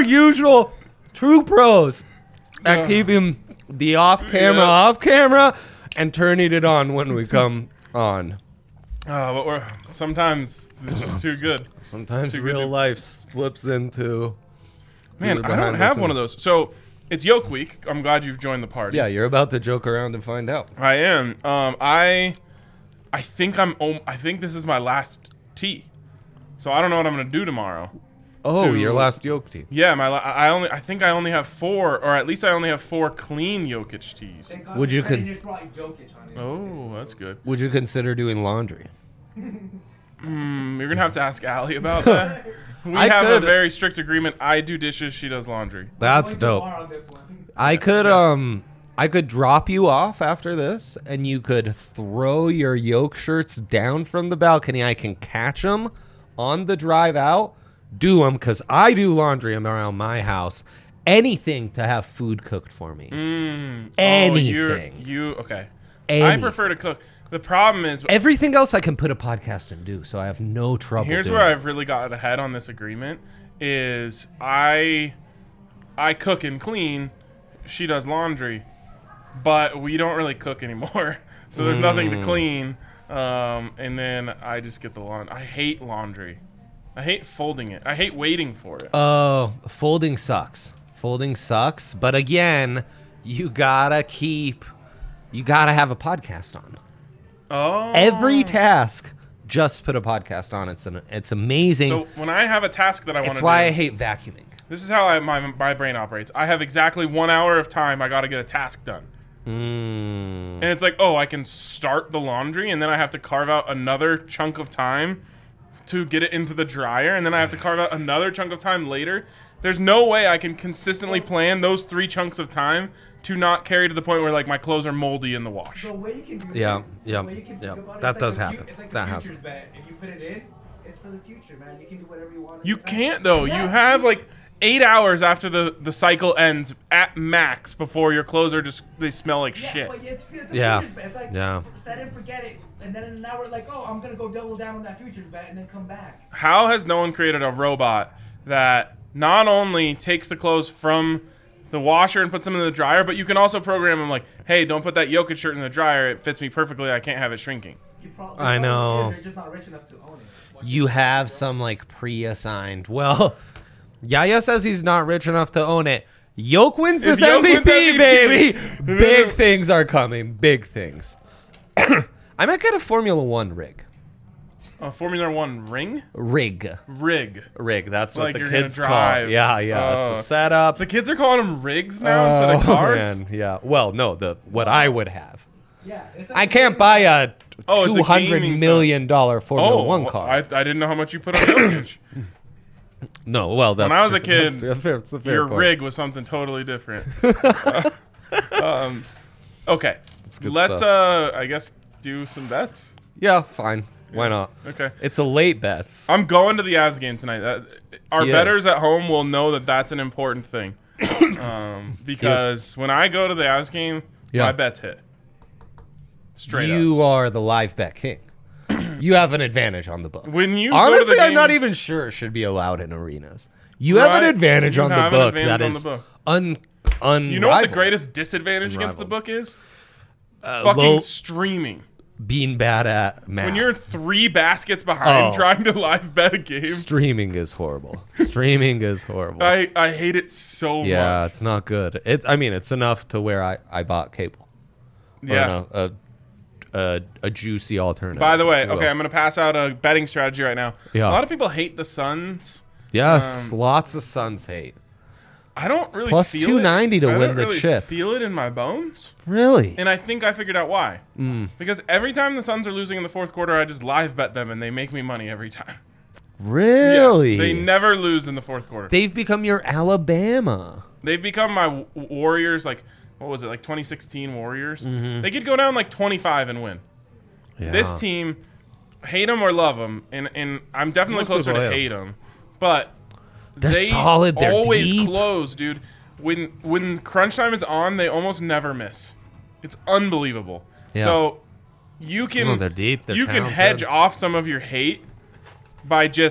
usual. True pros at keeping the off camera and turning it on when we come on. But sometimes it's just too good. Sometimes real life slips into. Man, I don't have one of those. So it's Yoke Week. I'm glad you've joined the party. Yeah, you're about to joke around and find out. I am. I think this is my last tee. So I don't know what I'm gonna do tomorrow. Oh, your last Yoke tee. Yeah, I think I only have 4, or at least I only have 4 clean Jokic tees. Would you Oh, that's good. Would you consider doing laundry? You're gonna have to ask Allie about that. We have a very strict agreement. I do dishes, she does laundry. That's dope. I could drop you off after this, and you could throw your Yoke shirts down from the balcony. I can catch them on the drive out, do them, because I do laundry around my house. Anything to have food cooked for me. Anything. Okay. Anything. I prefer to cook. The problem is everything else I can put a podcast and do, so I have no trouble. Here's where I've really got ahead on this agreement is I cook and clean, she does laundry, but we don't really cook anymore. So there's nothing to clean. And then I just get the laundry. I hate laundry. I hate folding it. I hate waiting for it. Oh, folding sucks. But again, you gotta have a podcast on. Oh. Every task, just put a podcast on. It's amazing. So when I have a task that I want to do. It's why I hate vacuuming. This is how my brain operates. I have exactly 1 hour of time. I got to get a task done. And it's like, I can start the laundry, and then I have to carve out another chunk of time to get it into the dryer, and then I have to carve out another chunk of time later. There's no way I can consistently plan those 3 chunks of time to not carry to the point where like my clothes are moldy in the wash. The way you can do Yeah. That does like happen. It's like That the happens. futures bet. If you put it in, it's for the future, man. You can do whatever you want. You can't though. Yeah. You have like 8 hours after the cycle ends at max before your clothes are they smell like shit. But it's the Yeah. futures bet. It's like set it, forget it, and then in an hour, like, I'm gonna go double down on that futures bet and then come back. How has no one created a robot that not only takes the clothes from the washer and puts them in the dryer, but you can also program them like, hey, don't put that Jokic shirt in the dryer. It fits me perfectly. I can't have it shrinking. I know. They're just not rich enough to own it. You have some like pre-assigned. Well, Yaya says he's not rich enough to own it. Yoke wins this Yoke MVP, wins MVP, baby. Big things are coming. Big things. I might get a Formula One rig. A Formula One ring? Rig. That's what Like the you're kids gonna call. drive. It's a setup. The kids are calling them rigs now instead of cars. Man, yeah. Well, no, what I would have. Yeah, it's like I can't buy a it's a $200 gaming million Formula One car. I didn't know how much you put on Jokic. No, well, that's When I was a kid, it's a fair your point. rig was something totally different. Okay, good let's stuff. I guess do some bets. Yeah, fine. Why not? Okay, It's a late bets. I'm going to the Avs game tonight. Our He bettors is. at home will know that that's an important thing. Because when I go to the Avs game, my bets hit. Straight up. You are the live bet king. You have an advantage on the book. When you go Honestly, to the I'm game, not even sure it should be allowed in arenas. You have an Right. advantage You on the have an book advantage that on is the book. unrivaled. You know what the greatest disadvantage against the Unrivaled. book is? Fucking low- streaming. Being bad at math. When you're 3 baskets behind trying to live bet a game, Streaming is horrible. Streaming is horrible. I hate it so Yeah, much. it's not good. It's enough to where I bought cable. Or Yeah. no, a juicy alternative. By the way, if you will. okay, I'm going to pass out a betting strategy right now. Yeah. A lot of people hate the Suns. Yes, lots of Suns hate. I don't really Plus feel 290 it. to I win don't the really chip. feel it in my bones. Really? And I think I figured out why. Because every time the Suns are losing in the fourth quarter, I just live bet them and they make me money every time. Really? Yes, they never lose in the fourth quarter. They've become your Alabama. They've become my Warriors, like, what was it, like 2016 Warriors? They could go down like 25 and win. Yeah. This team, hate them or love them, and I'm definitely Most closer people to hate hate them, but They're they solid, they're always deep. close, dude. When crunch time is on, they almost never miss. It's unbelievable. Yeah. So you can No, they're deep, they're you can talented. hedge off some of your hate by just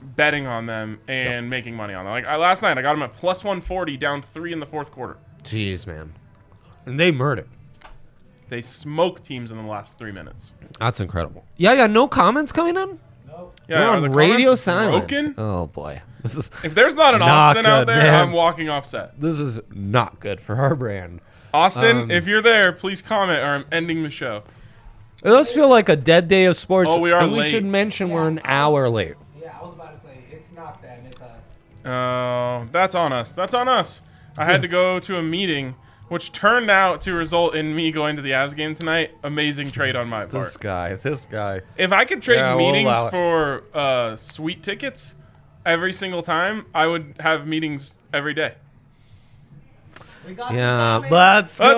betting on them and making money on them. Like last night, I got them at plus 140, down 3 in the fourth quarter. Jeez, man. And they murdered. They smoked teams in the last 3 minutes. That's incredible. Yeah. No comments coming in? Nope. Yeah, We're are on the radio comments silent. broken? Oh, boy. This is If there's not an Not Austin out good, there, man. I'm walking off set. this is not good for our brand. Austin, if you're there, please comment or I'm ending the show. It does feel like a dead day of sports. Oh, we are and we late. should mention we're an hour late. Yeah, I was about to say, it's not them, it's us. Oh, that's on us. That's on us. I had to go to a meeting, which turned out to result in me going to the Avs game tonight. Amazing trade on my part. This guy. If I could trade Yeah, we'll meetings allow it. for sweet tickets every single time, I would have meetings every day. We got Yeah, two comments. let's go. Let's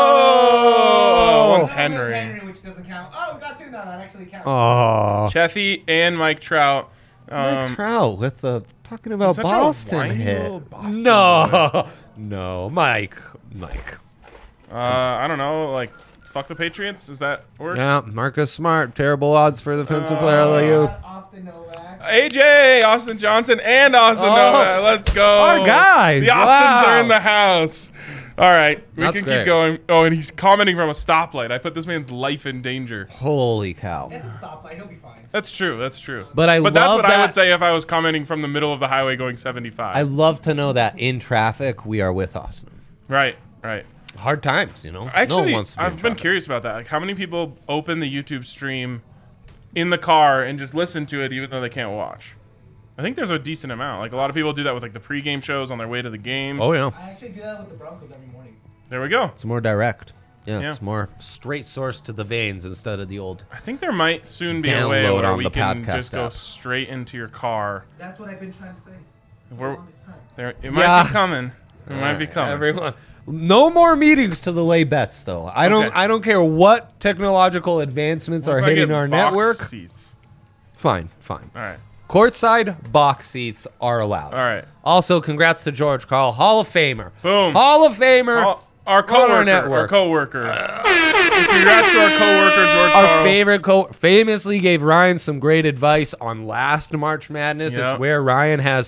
go! One's One is Henry. which doesn't count. Oh, we got two now. That actually counts. Oh, Chethy and Mike Trout. Mike Trout with the talking about such a Boston whiny hit. little Boston No, Mike. I don't know, like, fuck the Patriots? Is that word? Yeah, Marcus Smart. Terrible odds for the defensive player of the year. Austin Novak. AJ, Austin Johnson, and Austin Novak. Let's go. Our guys. The Austins are in the house. All right, we That's can great. keep going. Oh, and he's commenting from a stoplight. I put this man's life in danger. Holy cow. It's a stoplight. He'll be fine. That's true. That's true. But I that's love what I that- would say if I was commenting from the middle of the highway going 75. I love to know that in traffic we are with Austin. Right. Right. Hard times, you know. Actually, no one wants to be in I've been traffic. curious about that. Like, how many people open the YouTube stream in the car and just listen to it even though they can't watch? I think there's a decent amount. Like, a lot of people do that with, like, the pregame shows on their way to the game. Oh yeah, I actually do that with the Broncos every morning. There we go. it's more direct. Yeah, Yeah. it's more straight source to the veins instead of the old. I think there might soon be a way Download where on we the can podcast just go app. straight into your car. That's what I've been trying to say. For We're- the longest time. It might Yeah. be coming. It might be coming. Everyone, no more meetings to the lay bets though. I Okay. don't care what technological advancements What are if I hitting get our box network. seats? Fine. All right. Courtside box seats are allowed. All right. Also, congrats to George Karl, Hall of Famer. Boom. Hall of Famer. Our coworker. network. Our coworker. Congrats to our coworker, George Our Karl. favorite famously gave Ryan some great advice on last March Madness. Yep. It's where Ryan has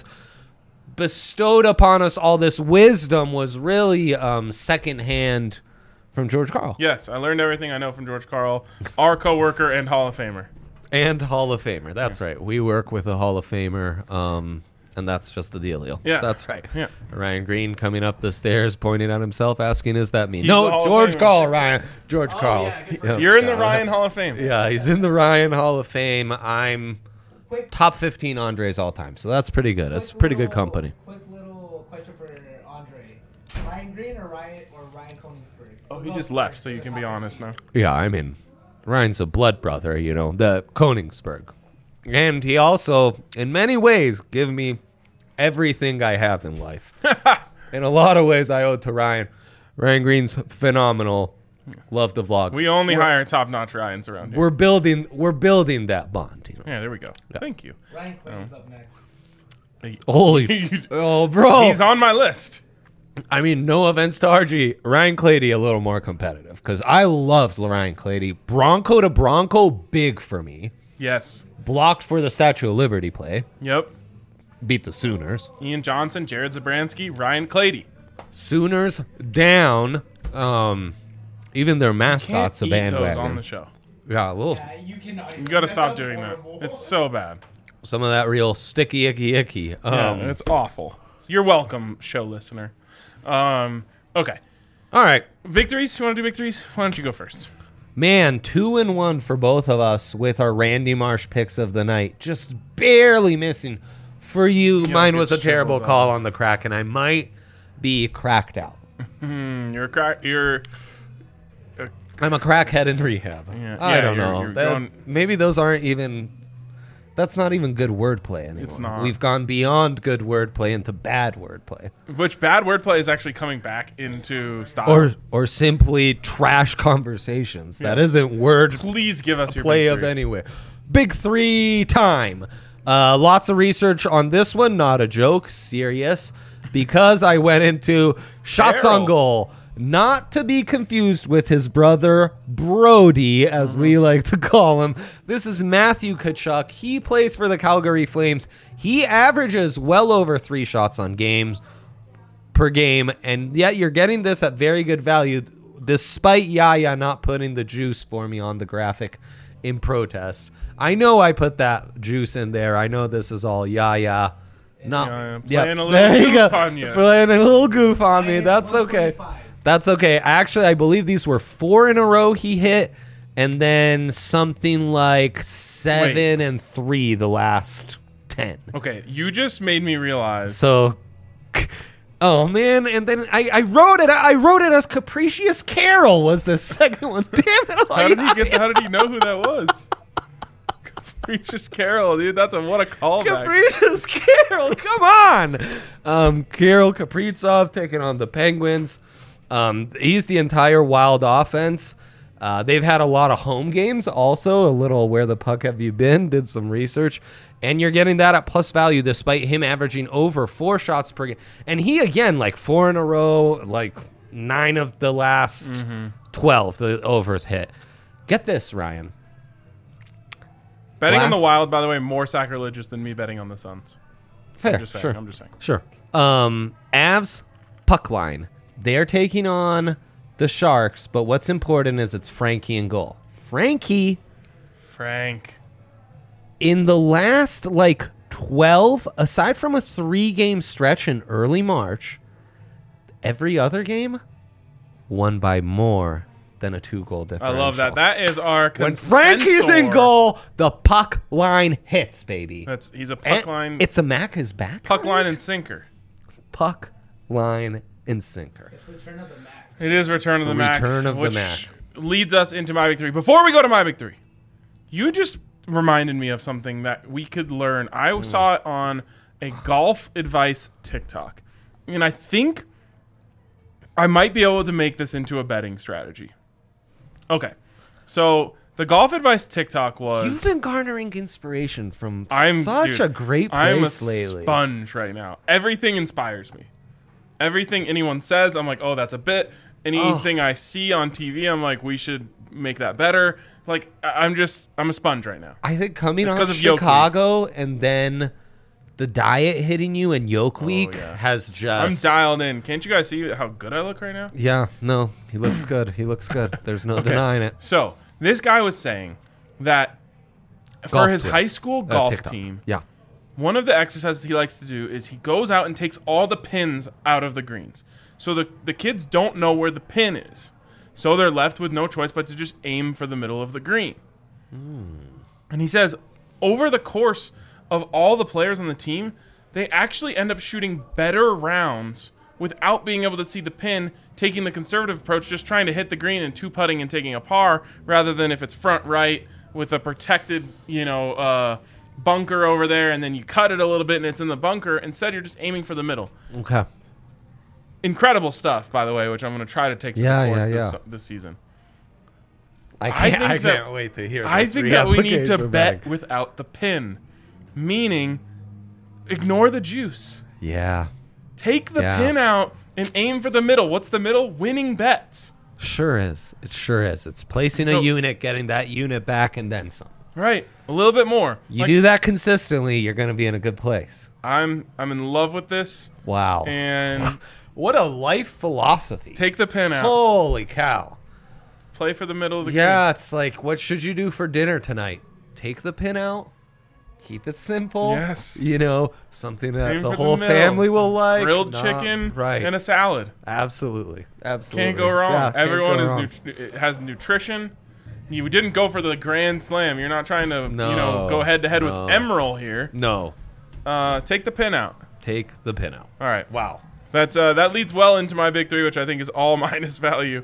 bestowed upon us all this wisdom was really secondhand from George Karl. Yes, I learned everything I know from George Karl, our coworker and Hall of Famer. And Hall of Famer. That's right. We work with a Hall of Famer, and that's just the dealio. Yeah. That's right. Yeah. Ryan Green coming up the stairs, pointing at himself, asking, is that me? He's the No, Hall of George Famer. Karl, Ryan. George Karl. yeah, good for Yep. You're in the Yeah. Ryan Hall of Fame. Yeah, he's in the Ryan Hall of Fame. I'm Quick, top 15 Andres all time, so that's pretty good. That's pretty good company. Quick little question for Andre: Ryan Green or Ryan Koenigsberg? Oh, he just left, so you can be honest now. Yeah, I mean, Ryan's a blood brother, you know, the Koenigsberg. And he also, in many ways, gave me everything I have in life. In a lot of ways, I owe it to Ryan. Ryan Green's phenomenal. Love the vlogs. We only hire top-notch Ryans around here. We're building that bond. You know? Yeah, there we go. Thank you. Ryan Clayton's up next. Holy, oh, bro! He's on my list. I mean, no offense to RG, Ryan Clady a little more competitive because I love Ryan Clady. Bronco to Bronco, big for me. Yes. Blocked for the Statue of Liberty play. Yep. Beat the Sooners. Ian Johnson, Jared Zabransky, Ryan Clady. Sooners down. Even their mascot's a Can't eat those bandwagon. on the show. Yeah, a little. Yeah, you cannot. You got to stop doing that. It's so bad. Some of that real sticky, icky. Yeah, it's awful. You're welcome, show listener. Okay. All right. Victories? You want to do victories? Why don't you go first? Man, 2-1 for both of us with our Randy Marsh picks of the night. Just barely missing. For you, mine was a gets terrible shriveled call on the crack, and I might be cracked out. You're a crack. You're. I'm a crackhead in rehab. Yeah, I yeah, don't you're- know. you're That- going- maybe those aren't even. That's not even good wordplay anymore. It's not. We've gone beyond good wordplay into bad wordplay, Which bad wordplay is actually coming back into style. or simply trash conversations. That Yes. isn't word Please give us your play big of three. anywhere. Big three time. Lots of research on this one. Not a joke. Serious. Because I went into shots on Daryl. goal. Not to be confused with his brother Brody, as we like to call him. This is Matthew Tkachuk. He plays for the Calgary Flames. He averages well over 3 shots on games per game, and yet you're getting this at very good value, despite Yaya not putting the juice for me on the graphic in protest. I know I put that juice in there. I know this is all Yaya. Playing Yep. a little There you goof go. on you. Playing a little goof on me. That's okay. 125. That's okay. Actually, I believe these were 4 in a row he hit, and then something like 7 and 3 the last 10. Okay, you just made me realize. So, oh man! And then I wrote it. I wrote it as Capricious Carol was the second one. Damn it! How did he know who that was? Capricious Carol, dude. What a callback. Capricious Carol, come on! Carol Kaprizov taking on the Penguins. He's the entire Wild offense. They've had a lot of home games also, a little where the puck have you been, did some research, and you're getting that at plus value despite him averaging over 4 shots per game. And he, again, like 4 in a row, like 9 of the last 12, the overs hit. Get this, Ryan. Betting on the Wild, by the way, more sacrilegious than me betting on the Suns. Fair, I'm just saying. Sure. Avs, puck line. They're taking on the Sharks, but what's important is it's Frankie in goal. Frank. In the last, 12, aside from a 3-game stretch in early March, every other game won by more than a 2-goal I differential. love that. That is our When consensor. Frankie's in goal, the puck line hits, baby. He's a puck line. It's a Mac is back. Puck line and sinker. Puck line and sinker. It's Return of the Mac. It is Return of the Mac. Return of the which Mac. leads us into my big 3. Before we go to my big 3, you just reminded me of something that we could learn. I saw it on a golf advice TikTok, and I think I might be able to make this into a betting strategy. Okay, so the golf advice TikTok was... You've been garnering inspiration from dude, a great I'm place a lately. sponge right now. Everything inspires me. Everything anyone says, I'm like, oh, that's a bit. Anything I see on TV, I'm like, we should make that better. Like, I'm a sponge right now. I think coming It's off 'cause of Yoke Chicago and then the diet hitting you in Yoke Week yeah. has just... I'm dialed in. Can't you guys see how good I look right now? Yeah, no, he looks good. He looks good. There's no denying it. So, this guy was saying that for Golf his team. high school golf TikTok. team, Yeah. one of the exercises he likes to do is he goes out and takes all the pins out of the greens. So the kids don't know where the pin is. So they're left with no choice but to just aim for the middle of the green. And he says, over the course of all the players on the team, they actually end up shooting better rounds without being able to see the pin, taking the conservative approach, just trying to hit the green and 2-putting and taking a par, rather than if it's front right with a protected, bunker over there, and then you cut it a little bit and it's in the bunker. Instead, you're just aiming for the middle. Okay. Incredible stuff, by the way, which I'm going to try to take to the course this season. I think can't wait to hear this. I think that we need to reapplication bet bag. without the pin, meaning ignore the juice. Yeah. Take the Yeah. pin out and aim for the middle. What's the middle? Winning bets. Sure is. It sure is. It's placing So- a unit, getting that unit back, and then some. Right. A little bit more. You do that consistently, you're going to be in a good place. I'm in love with this. Wow. And What a life philosophy. take the pin out. Holy cow. Play for the middle of the Yeah, it's like, what should you do for dinner tonight? Take the pin out. Keep it simple. Yes. Something that Aim the for the whole middle. family will like. Grilled Not- chicken right? and a salad. Absolutely. Absolutely. Can't go wrong. Yeah, can't Everyone go is wrong. it has nutrition. You didn't go for the grand slam. You're not trying to No, go head to head with no. Emerald here. No. Take the pin out. Take the pin out. All right. Wow. That leads well into my big 3, which I think is all minus value.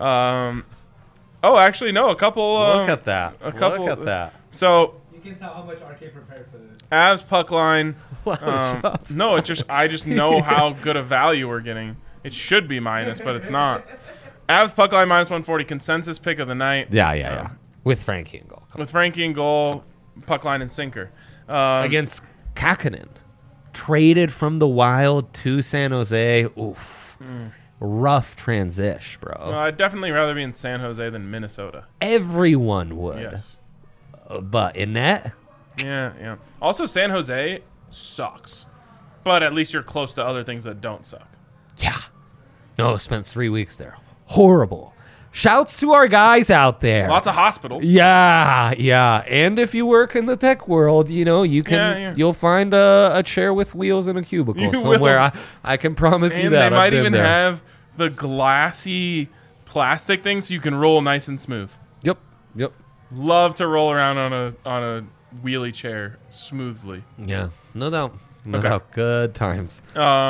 Actually, no. A couple. Look at that. A couple. Look at that. So You can tell how much RK prepared for this. Avs puck line. Wow, shots. No, I just know how good a value we're getting. It should be minus, but it's not. Avs puck line minus 140. Consensus pick of the night. Yeah. With Frankie in goal. With Frankie in goal, puck line and sinker. Against Kakkonen. Traded from the Wild to San Jose. Oof. rough transition, bro. I'd definitely rather be in San Jose than Minnesota. Everyone would. Yes. But in that, Yeah. Also, San Jose sucks. But at least you're close to other things that don't suck. yeah. No, spent 3 weeks there. Horrible. Shouts to our guys out there. Lots of hospitals. Yeah. And if you work in the tech world, you know, you can you'll find a chair with wheels in a cubicle You somewhere. will. I can promise you And that. they I've might been even there. have the glassy plastic things so you can roll nice and smooth. Yep. Love to roll around on a wheelie chair smoothly. Yeah. No doubt. Okay. Doubt. Good times.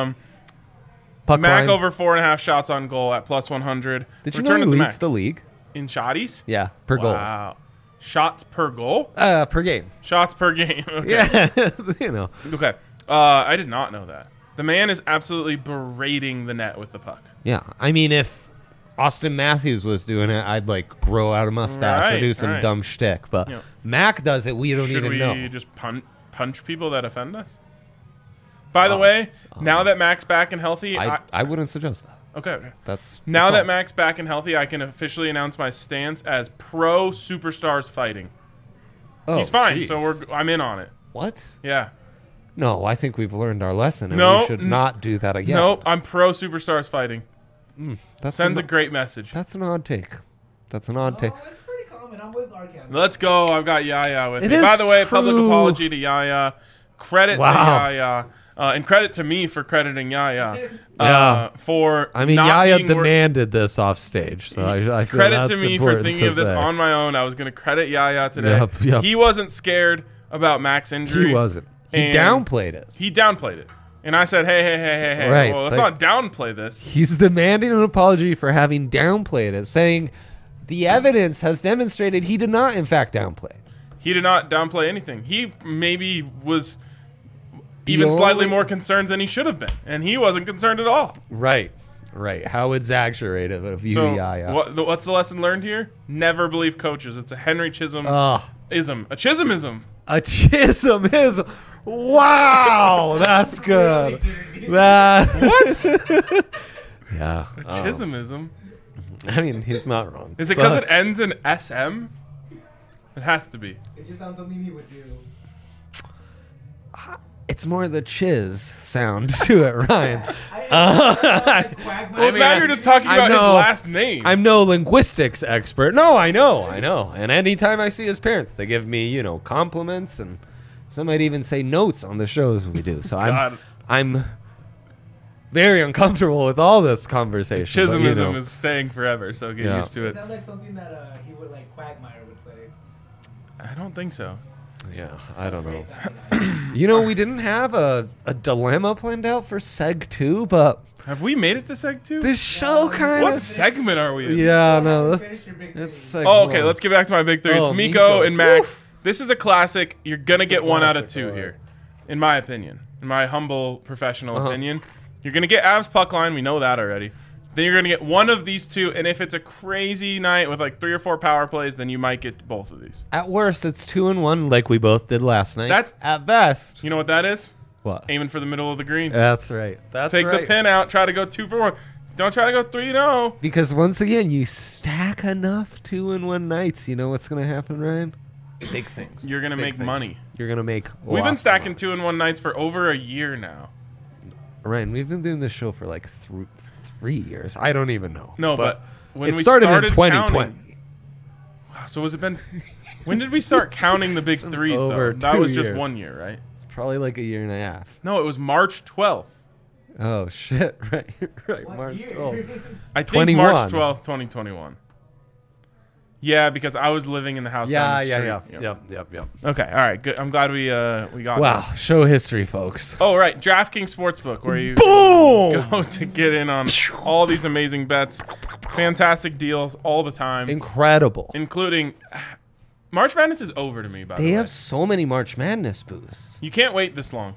Mac line. over 4.5 shots on goal at plus 100. Did you Return know of he the leads Mac. the league? In shotties? Yeah, per goal. Wow. Shots per goal? Per game. Shots per game. Okay. Yeah, you know. Okay. I did not know that. The man is absolutely berating the net with the puck. Yeah, I mean, if Austin Matthews was doing it, I'd like grow out a mustache or do some Right. dumb shtick. But Yeah. Mac does it. We don't Should even we know. just punch people that offend us? By the way, now that Mac's back and healthy, I wouldn't suggest that. okay. That's Now that assault. Mac's back and healthy, I can officially announce my stance as pro superstars fighting. Oh, He's fine, jeez. so I'm in on it. What? Yeah. No, I think we've learned our lesson, and No, we should not do that again. Nope, I'm pro superstars fighting. That's Sends a an, great message. That's an odd take. That's an odd take. Oh, it's pretty common. I'm with Arcand. Let's go. I've got Yaya with It me. is By the way, public true. apology to Yaya. Credit Wow. to Yaya. And credit to me for crediting Yaya. Yeah. For I mean, not Yaya being demanded this off stage, so I feel credit to that's me for important thinking to of this say. on my own. I was going to credit Yaya today. Yep. He wasn't scared about Mac's injury. He wasn't. He And downplayed it. He downplayed it. And I said, hey. Right, Well, let's like- not downplay this. He's demanding an apology for having downplayed it, saying the evidence has demonstrated he did not, in fact, downplay. He did not downplay anything. He maybe was even slightly more concerned than he should have been. And he wasn't concerned at all. Right. How exaggerated of you, So Yaya. what's the lesson learned here? Never believe coaches. It's a Henry Chisholm ism. A Chisholmism. A Chisholm is. Wow, that's good. What? Yeah. A Chisholmism. I mean, he's not wrong. Is it because But- it ends in SM? It has to be. It just sounds something he would do. It's more the chiz sound to it, Ryan. Well, now you're just talking I about his know. last name. I'm no linguistics expert. No, I know. And anytime I see his parents, they give me, compliments, and some might even say notes on the shows we do. So God. I'm very uncomfortable with all this conversation. but, Chisholmism is staying forever, so get Yeah. used to It it. sounds like something that he would like Quagmire would say. I don't think so. Yeah, I don't know. We didn't have a dilemma planned out for Seg 2, but Have we made it to Seg 2? this show kind What of... segment are we in? Yeah, no. Finish your big It's three. Seg Oh, okay. 1. Let's get back to my big three. It's Oh, Miko Miko. and Mac. Woof. This is a classic. You're gonna get a 1 out of classic, 2 alright. here, in my opinion. In my humble professional Uh-huh. opinion, you're gonna get Avs puck line. We know that already. Then you're gonna get one of these two, and if it's a crazy night with like 3 or 4 power plays, then you might get both of these. At worst, it's 2-1 like we both did last night. That's- at best. You know what that is? What? Aiming for the middle of the green. That's right. That's Take right. the pin out. Try to go 2 for 1. Don't try to go 3-0. Because once again, you stack enough 2-1 nights. You know what's going to happen, Ryan? Big things. You're gonna Big make things. money. You're going to make We've been lots of stacking money. 2-1 nights for over a year now. Ryan, we've been doing this show for like 3 years. I don't even know. No, but when it we started in started 2020. counting- Wow, so has it been? When did we start counting the big It's been threes? Though over that 2 was just years. 1 year, right? It's probably like a year and a half. No, it was March 12th. Oh, shit. Right. What March year? 12th. I think 21. March 12th, 2021. Yeah, because I was living in the house. down the street. Yep. Okay, all right, good. I'm glad we got. Wow. that. Show history, folks. Oh, right, DraftKings Sportsbook, where you Boom! go to get in on all these amazing bets, fantastic deals all the time, Incredible. including March Madness is over to me. By the They way, have so many March Madness boosts. you can't wait this long.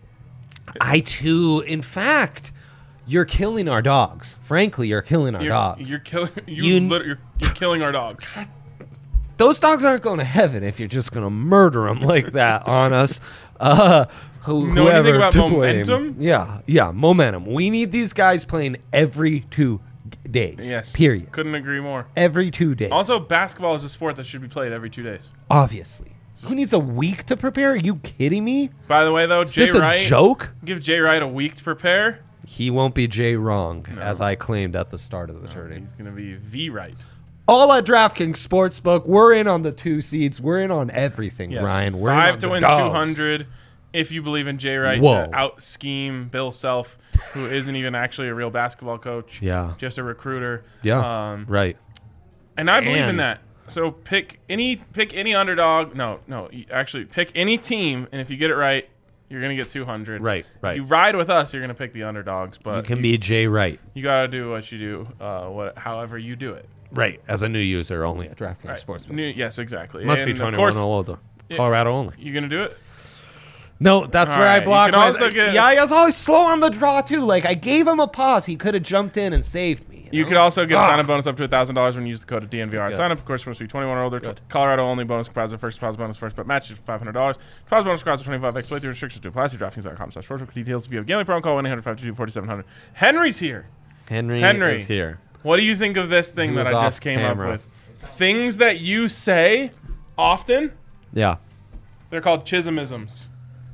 I too, in fact, you're killing our dogs. Frankly, you're killing our dogs. You're killing. You- You're killing our dogs. those dogs aren't going to heaven if you're just going to murder them like that on us. You know anything about momentum? Yeah, momentum. We need these guys playing every 2 days. Yes. Period. Couldn't agree more. Every 2 days. Also, basketball is a sport that should be played every 2 days. Obviously. Who needs a week to prepare? Are you kidding me? By the way, though, Is Jay this Wright. a joke? Give Jay Wright a week to prepare. He won't be Jay wrong, as I claimed at the start of the tourney. He's going to be V Wright. All at DraftKings Sportsbook. We're in on the 2 seeds. We're in on everything, Yes. Ryan. We're 5 in to on win the dogs. 200 if you believe in Jay Wright Whoa. to out-scheme Bill Self, who isn't even actually a real basketball coach. Yeah. Just a recruiter. Yeah. Right. And I believe in And- that. So pick any underdog. No, actually pick any team, and if you get it right, you're gonna get 200. Right. If you ride with us, you're gonna pick the underdogs. But You can be Jay Wright. You gotta do what you do, however you do it. Right. As a new user only at DraftKings Right. Sportsbook. Yes, exactly. Must And be of 21 course, or older. Colorado only. You gonna do it? No, that's All where I right, blocked. you can also get- Yeah, I was always slow on the draw too. Like I gave him a pause. He could have jumped in and saved me. You know? could also get a Ah. sign-up bonus up to $1,000 when you use the code DNVR. Good. Sign up, of course, must be 21 or older. Good. Colorado only bonus comprised of first deposit bonus, first bet match is $500. Deposit bonus comprised of 25x. Play through restrictions to apply. See DraftKings.com/sportsbook details. If you have gambling problem, call 1-800-522-4700. Henry's here. Henry is here. What do you think of this thing He that was I off just came camera. up with? Things that you say often, Yeah. they're called chismisms.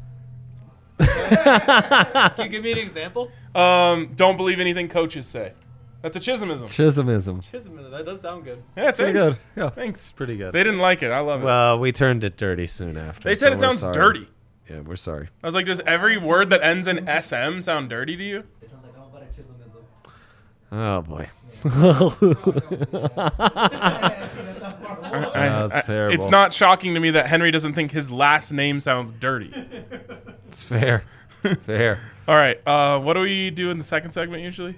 Can you give me an example? Don't believe anything coaches say. That's a chismism. Chismism. That does sound good. Yeah, thanks. Pretty good. Yeah. Thanks. Pretty good. They didn't like it. I love it. Well, we turned it dirty soon after. They said so it we're sounds sorry. dirty. Yeah, we're sorry. I was like, does every word that ends in SM sound dirty to you? It sounds like, oh, but a chismism. Oh boy. That's terrible. It's not shocking to me that Henry doesn't think his last name sounds dirty. It's fair. Fair. All right. What do we do in the second segment usually?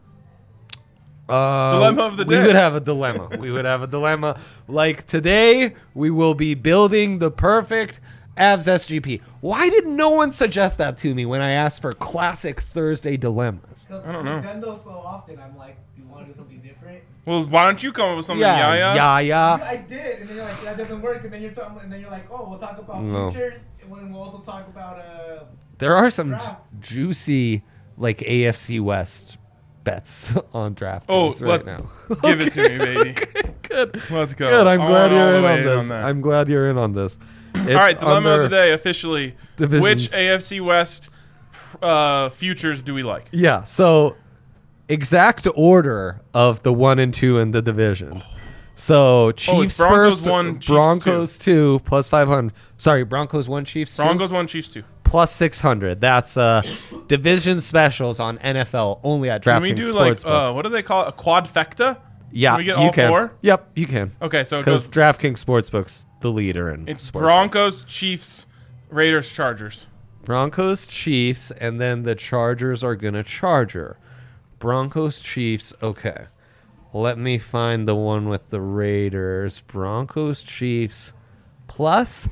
Dilemma Dilemma of the day. We would have a dilemma. We would have a dilemma. Like today, we will be building the perfect Avs SGP. Why did no one suggest that to me when I asked for classic Thursday dilemmas? I don't know. We've done those so often. I'm like, you want to do something different? Well, why don't you come up with something, Yaya? yeah. I did, and then you're like, that doesn't work. And then you're talking, and then you're like, oh, we'll talk about No. futures, and then we'll also talk about There are some Draft. juicy, like AFC West bets on draft Oh, days right now. Give it to me, baby. Good. Let's go. Good. I'm glad All you're the in way on this. that. I'm glad you're in on this. All right, dilemma of the day officially. divisions. Which AFC West futures do we like? Yeah. So exact order of the 1 and 2 in the division. So Chiefs Broncos first, 1, Chiefs Broncos 2 plus 500. Sorry, Broncos 1, Chiefs 2 Broncos 1, Chiefs 2. plus 600. That's division specials on NFL only at Can we DraftKings do like Sportsbook. what do they call it? A quadfecta? Yeah, Can we get you all can. 4? Yep, you can. Okay, so it Because goes. DraftKings Sportsbook's the leader in It's sports. Broncos, Chiefs, Raiders, Chargers. Broncos, Chiefs, and then the Chargers are gonna Charger. Broncos, Chiefs. Okay, let me find the one with the Raiders. Broncos, Chiefs, plus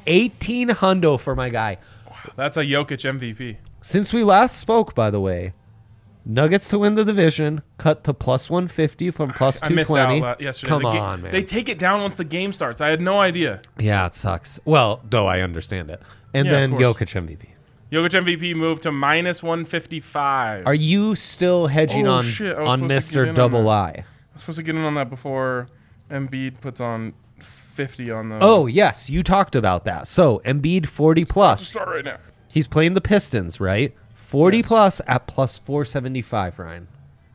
1,800 for my guy. That's a Jokic MVP. Since we last spoke, by the way, Nuggets to win the division cut to plus 150 from plus I missed 220. out yesterday. Come The ga- on, man. They take it down once the game starts. I had no idea. Yeah, it sucks. Well, though I understand it. And Yeah, then of Jokic course. MVP. Jokic MVP moved to minus 155. Are you still hedging Oh, on shit, I was on supposed to get in Mr. on Double that. I? I'm supposed to get in on that before Embiid puts on 50 on the. Oh, yes, you talked about that. So, Embiid 40 Let's plus. start right now. He's playing the Pistons, right? 40 Yes. plus at plus 475, Ryan.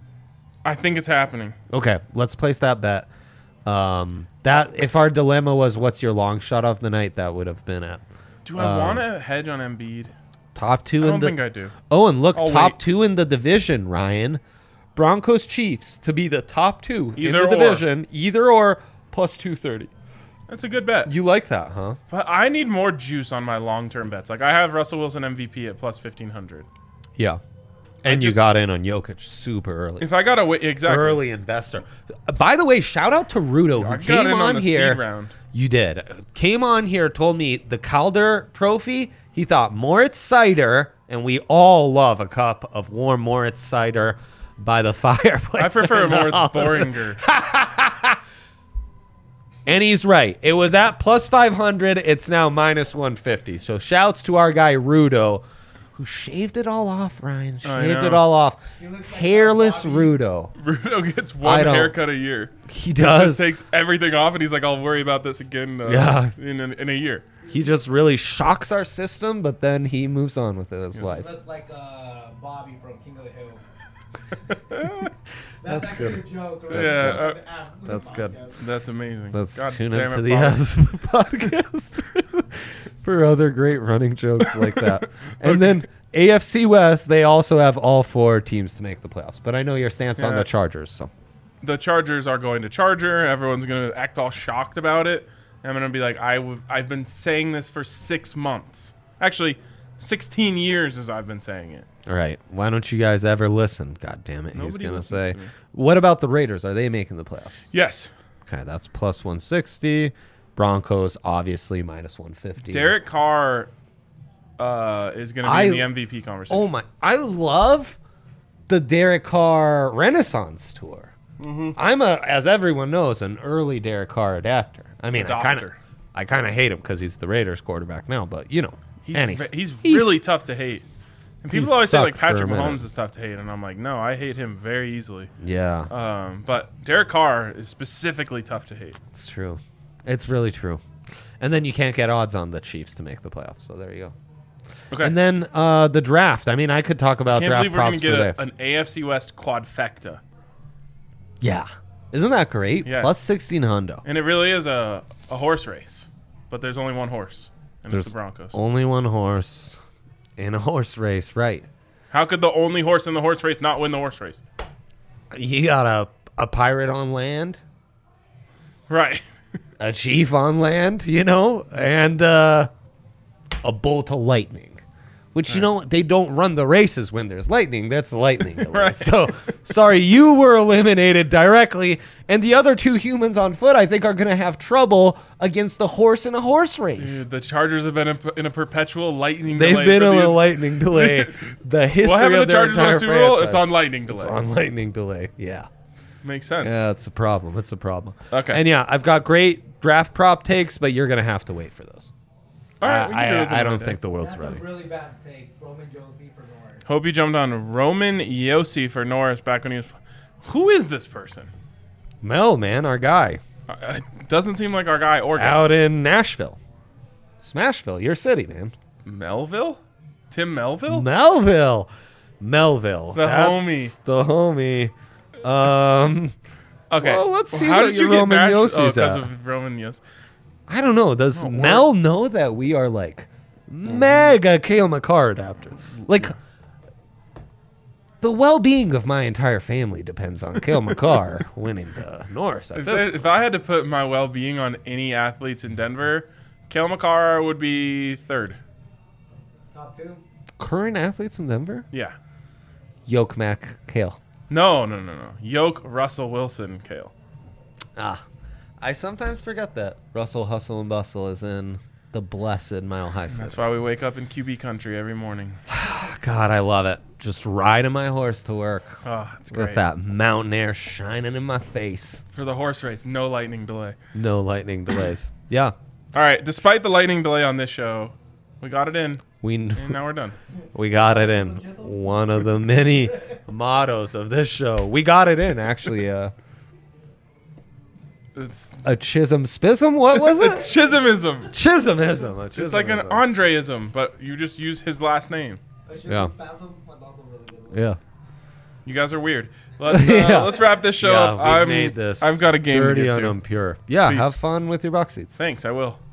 I think it's happening. Okay, let's place that bet. That if our dilemma was what's your long shot of the night, that would have been at Do I want to hedge on Embiid? top 2 I in don't the think I do. Oh, and look, I'll top wait. 2 in the division, Ryan. Broncos Chiefs to be the top 2 Either in the or. division, either or plus 230. That's a good bet. You like that, huh? But I need more juice on my long-term bets. Like I have Russell Wilson MVP at plus 1,500. Yeah. And you just- got in on Jokic super early. If I got a exactly. Early investor. By the way, shout out to Rudo who I got came in on the here. seed round. You did. Came on here, told me the Calder Trophy. He thought Moritz cider, and we all love a cup of warm Moritz cider by the fireplace. I prefer during the Moritz holiday. Boringer. And he's right. It was at plus 500. It's now minus 150. So shouts to our guy Rudo, who shaved it all off, Ryan. Shaved it all off. looks like Hairless Bobby. Rudo. Rudo gets I one don't- haircut a year. He Just does. takes everything off, and he's like, "I'll worry about this again Yeah. in a year." He just really shocks our system, but then he moves on with his life. Looks like Bobby from King of the Hill. That's actually good. a joke. That's Yeah, good. uh, That's good. That's amazing. Let's God tune damn into it, the Bobby. podcast for other great running jokes like that. And then AFC West, they also have all 4 teams to make the playoffs. But I know your stance on Yeah. the Chargers, so. The Chargers are going to Charger. Everyone's going to act all shocked about it. I'm going to be like, I've been saying this for 6 months. Actually, 16 years as I've been saying it. All right. Why don't you guys ever listen? God damn it. He's Nobody going to listens say. to me. What about the Raiders? Are they making the playoffs? Yes. Okay, that's plus 160. Broncos, obviously, minus 150. Derek Carr is going to be in the MVP conversation. Oh, my. I love the Derek Carr Renaissance Tour. I'm as everyone knows, an early Derek Carr adapter. I mean, Adopter. I kind of hate him because he's the Raiders quarterback now, but you know, He's really tough to hate. And people he's always say like sucked for a Patrick minute. Mahomes is tough to hate, and I'm like, no, I hate him very easily. Yeah, But Derek Carr is specifically tough to hate. it's true. It's really true. And then you can't get odds on the Chiefs to make the playoffs. So there you go. Okay. And then the draft. I mean, I could talk about Can't draft believe we're going props to for get there. an AFC West quadfecta. Yeah, isn't that great? Yes. Plus 16 hundo. And it really is a horse race. But there's only one horse, and There's it's the Broncos. only one horse in a horse race, right? How could the only horse in the horse race not win the horse race? You got a pirate on land, Right. a chief on land, you know, and a bolt of lightning. Which, you know, they don't run the races when there's lightning. That's lightning delay. Right. So, sorry, you were eliminated directly. And the other 2 humans on foot, I think, are going to have trouble against the horse in a horse race. Dude, the Chargers have been in a perpetual lightning They've delay. been for on the- a lightning delay. The history What happened to of the their Chargers won entire the Super Bowl? It's franchise. on lightning delay. It's on lightning delay. Yeah. Makes sense. Yeah, it's a problem. It's a problem. Okay. And yeah, I've got great draft prop takes, but you're going to have to wait for those. All right, we can do it I don't another think day. the world's That's ready. a really bad take. Roman Josie for Norris. Hope you jumped on Roman Yossi for Norris back when he was. Who is this person? Mel, man, our guy. Doesn't seem like our guy or guy. Out in Nashville. Smashville, your city, man. Melville? Tim Melville? Melville. The homie. The homie. Okay. Well, let's see How what did your you get Roman matched? Yossi's because at. of Roman Yossi. I don't know. Does Oh, Mel know that we are like mega Kale McCarr adapter? Like, the well-being of my entire family depends on Kale McCarr winning the Norris at this. If I had to put my well-being on any athletes in Denver, Kale McCarr would be third. Top 2. Current athletes in Denver? Yeah. Yoke Mac Kale. No. Yoke, Russell Wilson, Kale. Ah, I sometimes forget that Russell Hustle and Bustle is in the blessed Mile High City. That's why we wake up in QB country every morning. God, I love it. Just riding my horse to work Oh, it's great. with that mountain air shining in my face. For the horse race, no lightning delay. No lightning delays. Yeah, All right, despite the lightning delay on this show, we got it in, we and now we're done. we got it in. One of the many mottos of this show. We got it in, actually. It's A chism spism? What was it? Chisholmism. Chismism. It's like an Andreism, but you just use his last name. Yeah. Spasm was also really good. Yeah. You guys are weird. Let's Yeah. let's wrap this show Yeah, up. we've made this I've got a game to dirty get and to. impure. Yeah, Please. have fun with your box seats. Thanks, I will.